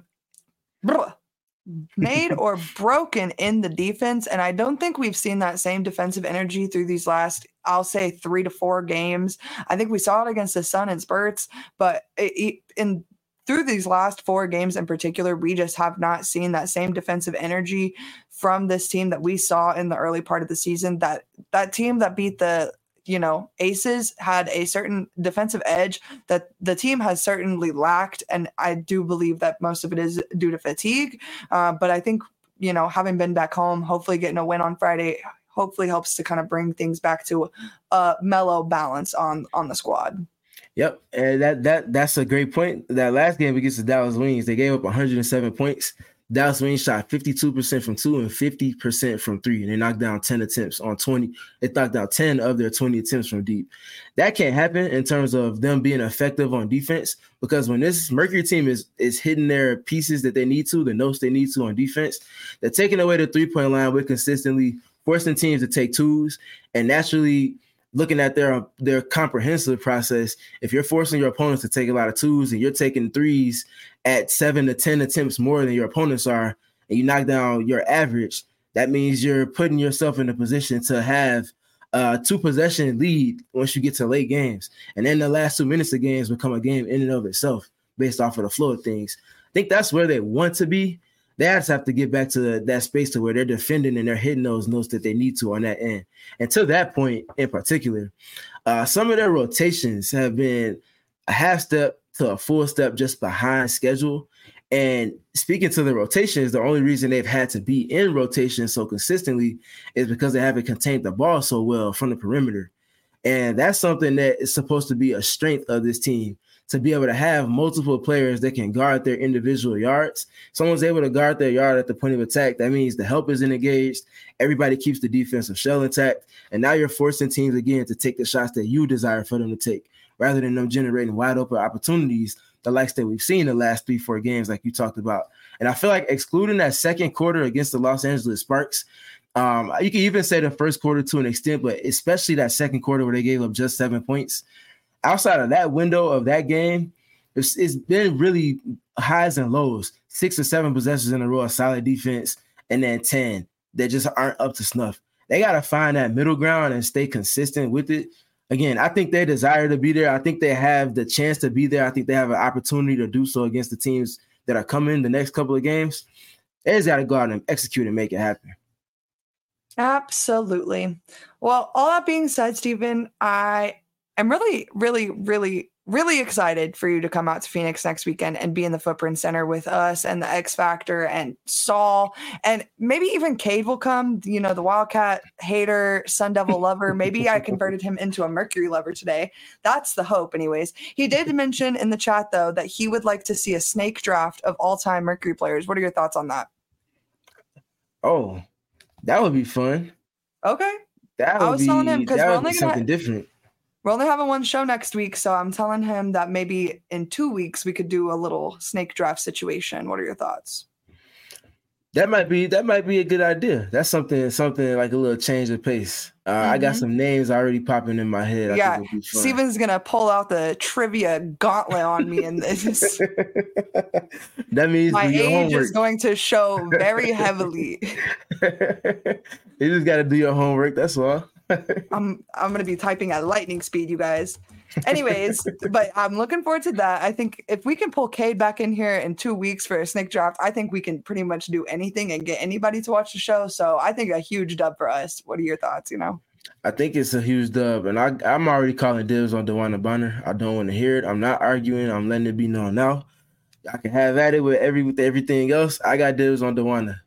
made or broken in the defense. And I don't think we've seen that same defensive energy through these last, I'll say, three to four games. I think we saw it against the Sun in spurts, but it, it, in through these last four games in particular, we just have not seen that same defensive energy from this team that we saw in the early part of the season. That that team that beat the you know, Aces had a certain defensive edge that the team has certainly lacked. And I do believe that most of it is due to fatigue. Uh, but I think, you know, having been back home, hopefully getting a win on Friday, hopefully helps to kind of bring things back to a mellow balance on, on the squad.
Yep. And that, that, that's a great point. That last game against the Dallas Wings, they gave up one hundred seven points. Dallas Wings shot fifty-two percent from two and fifty percent from three, and they knocked down ten attempts on twenty. They knocked down ten of their twenty attempts from deep. That can't happen in terms of them being effective on defense, because when this Mercury team is is hitting their pieces that they need to, the notes they need to on defense, they're taking away the three-point line with consistently forcing teams to take twos, and naturally looking at their their comprehensive process. If you're forcing your opponents to take a lot of twos and you're taking threes at seven to ten attempts more than your opponents are, and you knock down your average, that means you're putting yourself in a position to have a two possession lead once you get to late games. And then the last two minutes of games become a game in and of itself based off of the flow of things. I think that's where they want to be. They just have to get back to the, that space to where they're defending and they're hitting those notes that they need to on that end. And to that point in particular, uh, some of their rotations have been a half step to a full step just behind schedule. And speaking to the rotations, the only reason they've had to be in rotation so consistently is because they haven't contained the ball so well from the perimeter. And that's something that is supposed to be a strength of this team, to be able to have multiple players that can guard their individual yards. Someone's able to guard their yard at the point of attack. That means the help isn't engaged. Everybody keeps the defensive shell intact. And now you're forcing teams again to take the shots that you desire for them to take, rather than them generating wide open opportunities, the likes that we've seen the last three, four games, like you talked about. And I feel like excluding that second quarter against the Los Angeles Sparks, um, you can even say the first quarter to an extent, but especially that second quarter where they gave up just seven points. Outside of that window of that game, it's, it's been really highs and lows, six or seven possessions in a row of solid defense, and then ten that just aren't up to snuff. They got to find that middle ground and stay consistent with it. Again, I think they desire to be there. I think they have the chance to be there. I think they have an opportunity to do so against the teams that are coming the next couple of games. They just got to go out and execute and make it happen.
Absolutely. Well, all that being said, Stephen, I am really, really, really, really excited for you to come out to Phoenix next weekend and be in the Footprint Center with us and the X Factor and Saul, and maybe even Cade will come, you know, the Wildcat hater, Sun Devil lover. Maybe I converted him into a Mercury lover today. That's the hope anyways. He did mention in the chat though, that he would like to see a snake draft of all time Mercury players. What are your thoughts on that?
Oh, that would be fun.
Okay.
That would
I was
be,
telling him because we're only
something
gonna,
different.
We're only having one show next week, so I'm telling him that maybe in two weeks we could do a little snake draft situation. What are your thoughts? That
might be that might be a good idea. That's something something like a little change of pace. Uh, mm-hmm. I got some names already popping in my head. I
yeah, Steven's gonna pull out the trivia gauntlet on me, and this.
That means
my age
homework.
Is going to show very heavily.
You just got to do your homework. That's all.
I'm I'm gonna be typing at lightning speed, you guys. Anyways, but I'm looking forward to that. I think if we can pull Cade back in here in two weeks for a snake draft, I think we can pretty much do anything and get anybody to watch the show. So I think a huge dub for us. What are your thoughts? You know,
I think it's a huge dub, and I, I'm already calling dibs on DeWanna Bonner. I don't want to hear it. I'm not arguing. I'm letting it be known now. I can have at it with every with everything else. I got dibs on DeWanna.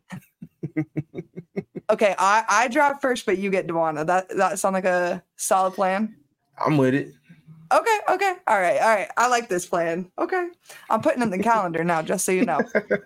Okay, I, I draft first, but you get DeWanna. That that sound like a solid plan.
I'm with it.
Okay, okay. All right, all right. I like this plan. Okay. I'm putting in the calendar now, just so you know.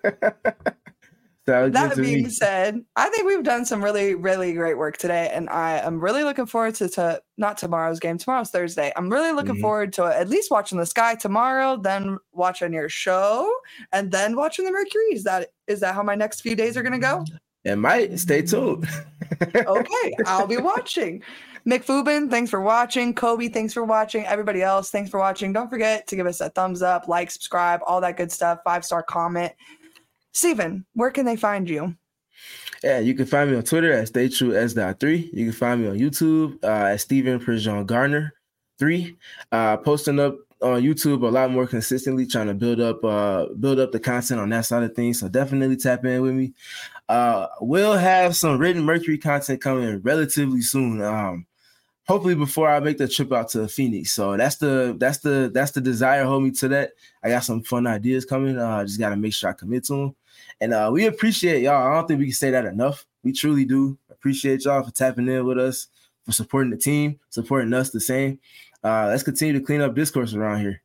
That being me. said, I think we've done some really, really great work today. And I am really looking forward to, to not tomorrow's game. Tomorrow's Thursday. I'm really looking mm-hmm. forward to at least watching the Sky tomorrow, then watching your show, and then watching the Mercury. Is that is that how my next few days are going to go?
It might. Stay tuned.
Okay, I'll be watching. McFubin, thanks for watching. Kobe, thanks for watching. Everybody else, thanks for watching. Don't forget to give us a thumbs up, like, subscribe, all that good stuff. Five-star comment. Steven, where can they find you?
Yeah, you can find me on Twitter at stay true s dot three. You can find me on YouTube uh, at Steven Prejean Garner three. Uh, posting up on YouTube a lot more consistently, trying to build up uh, build up the content on that side of things. So definitely tap in with me. Uh, we'll have some written Mercury content coming relatively soon. Um, hopefully before I make the trip out to Phoenix. So that's the that's the that's the desire. Hold me to that. I got some fun ideas coming. I uh, just got to make sure I commit to them. And uh, we appreciate y'all. I don't think we can say that enough. We truly do appreciate y'all for tapping in with us, for supporting the team, supporting us the same. Uh, let's continue to clean up discourse around here.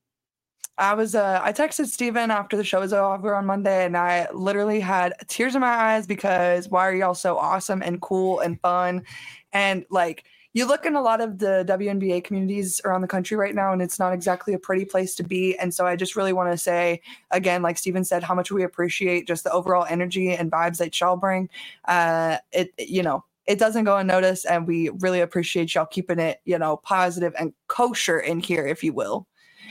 I was, uh, I texted Steven after the show was over on Monday, and I literally had tears in my eyes because why are y'all so awesome and cool and fun? And like, you look in a lot of the W N B A communities around the country right now, and it's not exactly a pretty place to be. And so I just really want to say, again, like Steven said, how much we appreciate just the overall energy and vibes that y'all bring. Uh, it, you know, it doesn't go unnoticed, and we really appreciate y'all keeping it, you know, positive and kosher in here, if you will.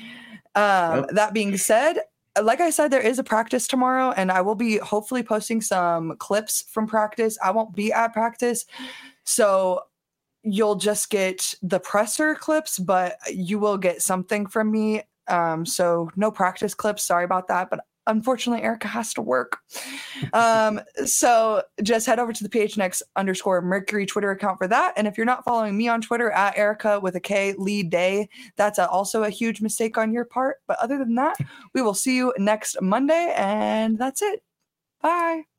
Um, yep. That being said, like I said, there is a practice tomorrow, and I will be hopefully posting some clips from practice. I won't be at practice, so you'll just get the presser clips, but you will get something from me. Um, so no practice clips. Sorry about that, but unfortunately, Erica has to work. Um, so just head over to the P H N X underscore Mercury Twitter account for that. And if you're not following me on Twitter at Erica with a K Lee Day, that's a, also a huge mistake on your part. But other than that, we will see you next Monday, and that's it. Bye.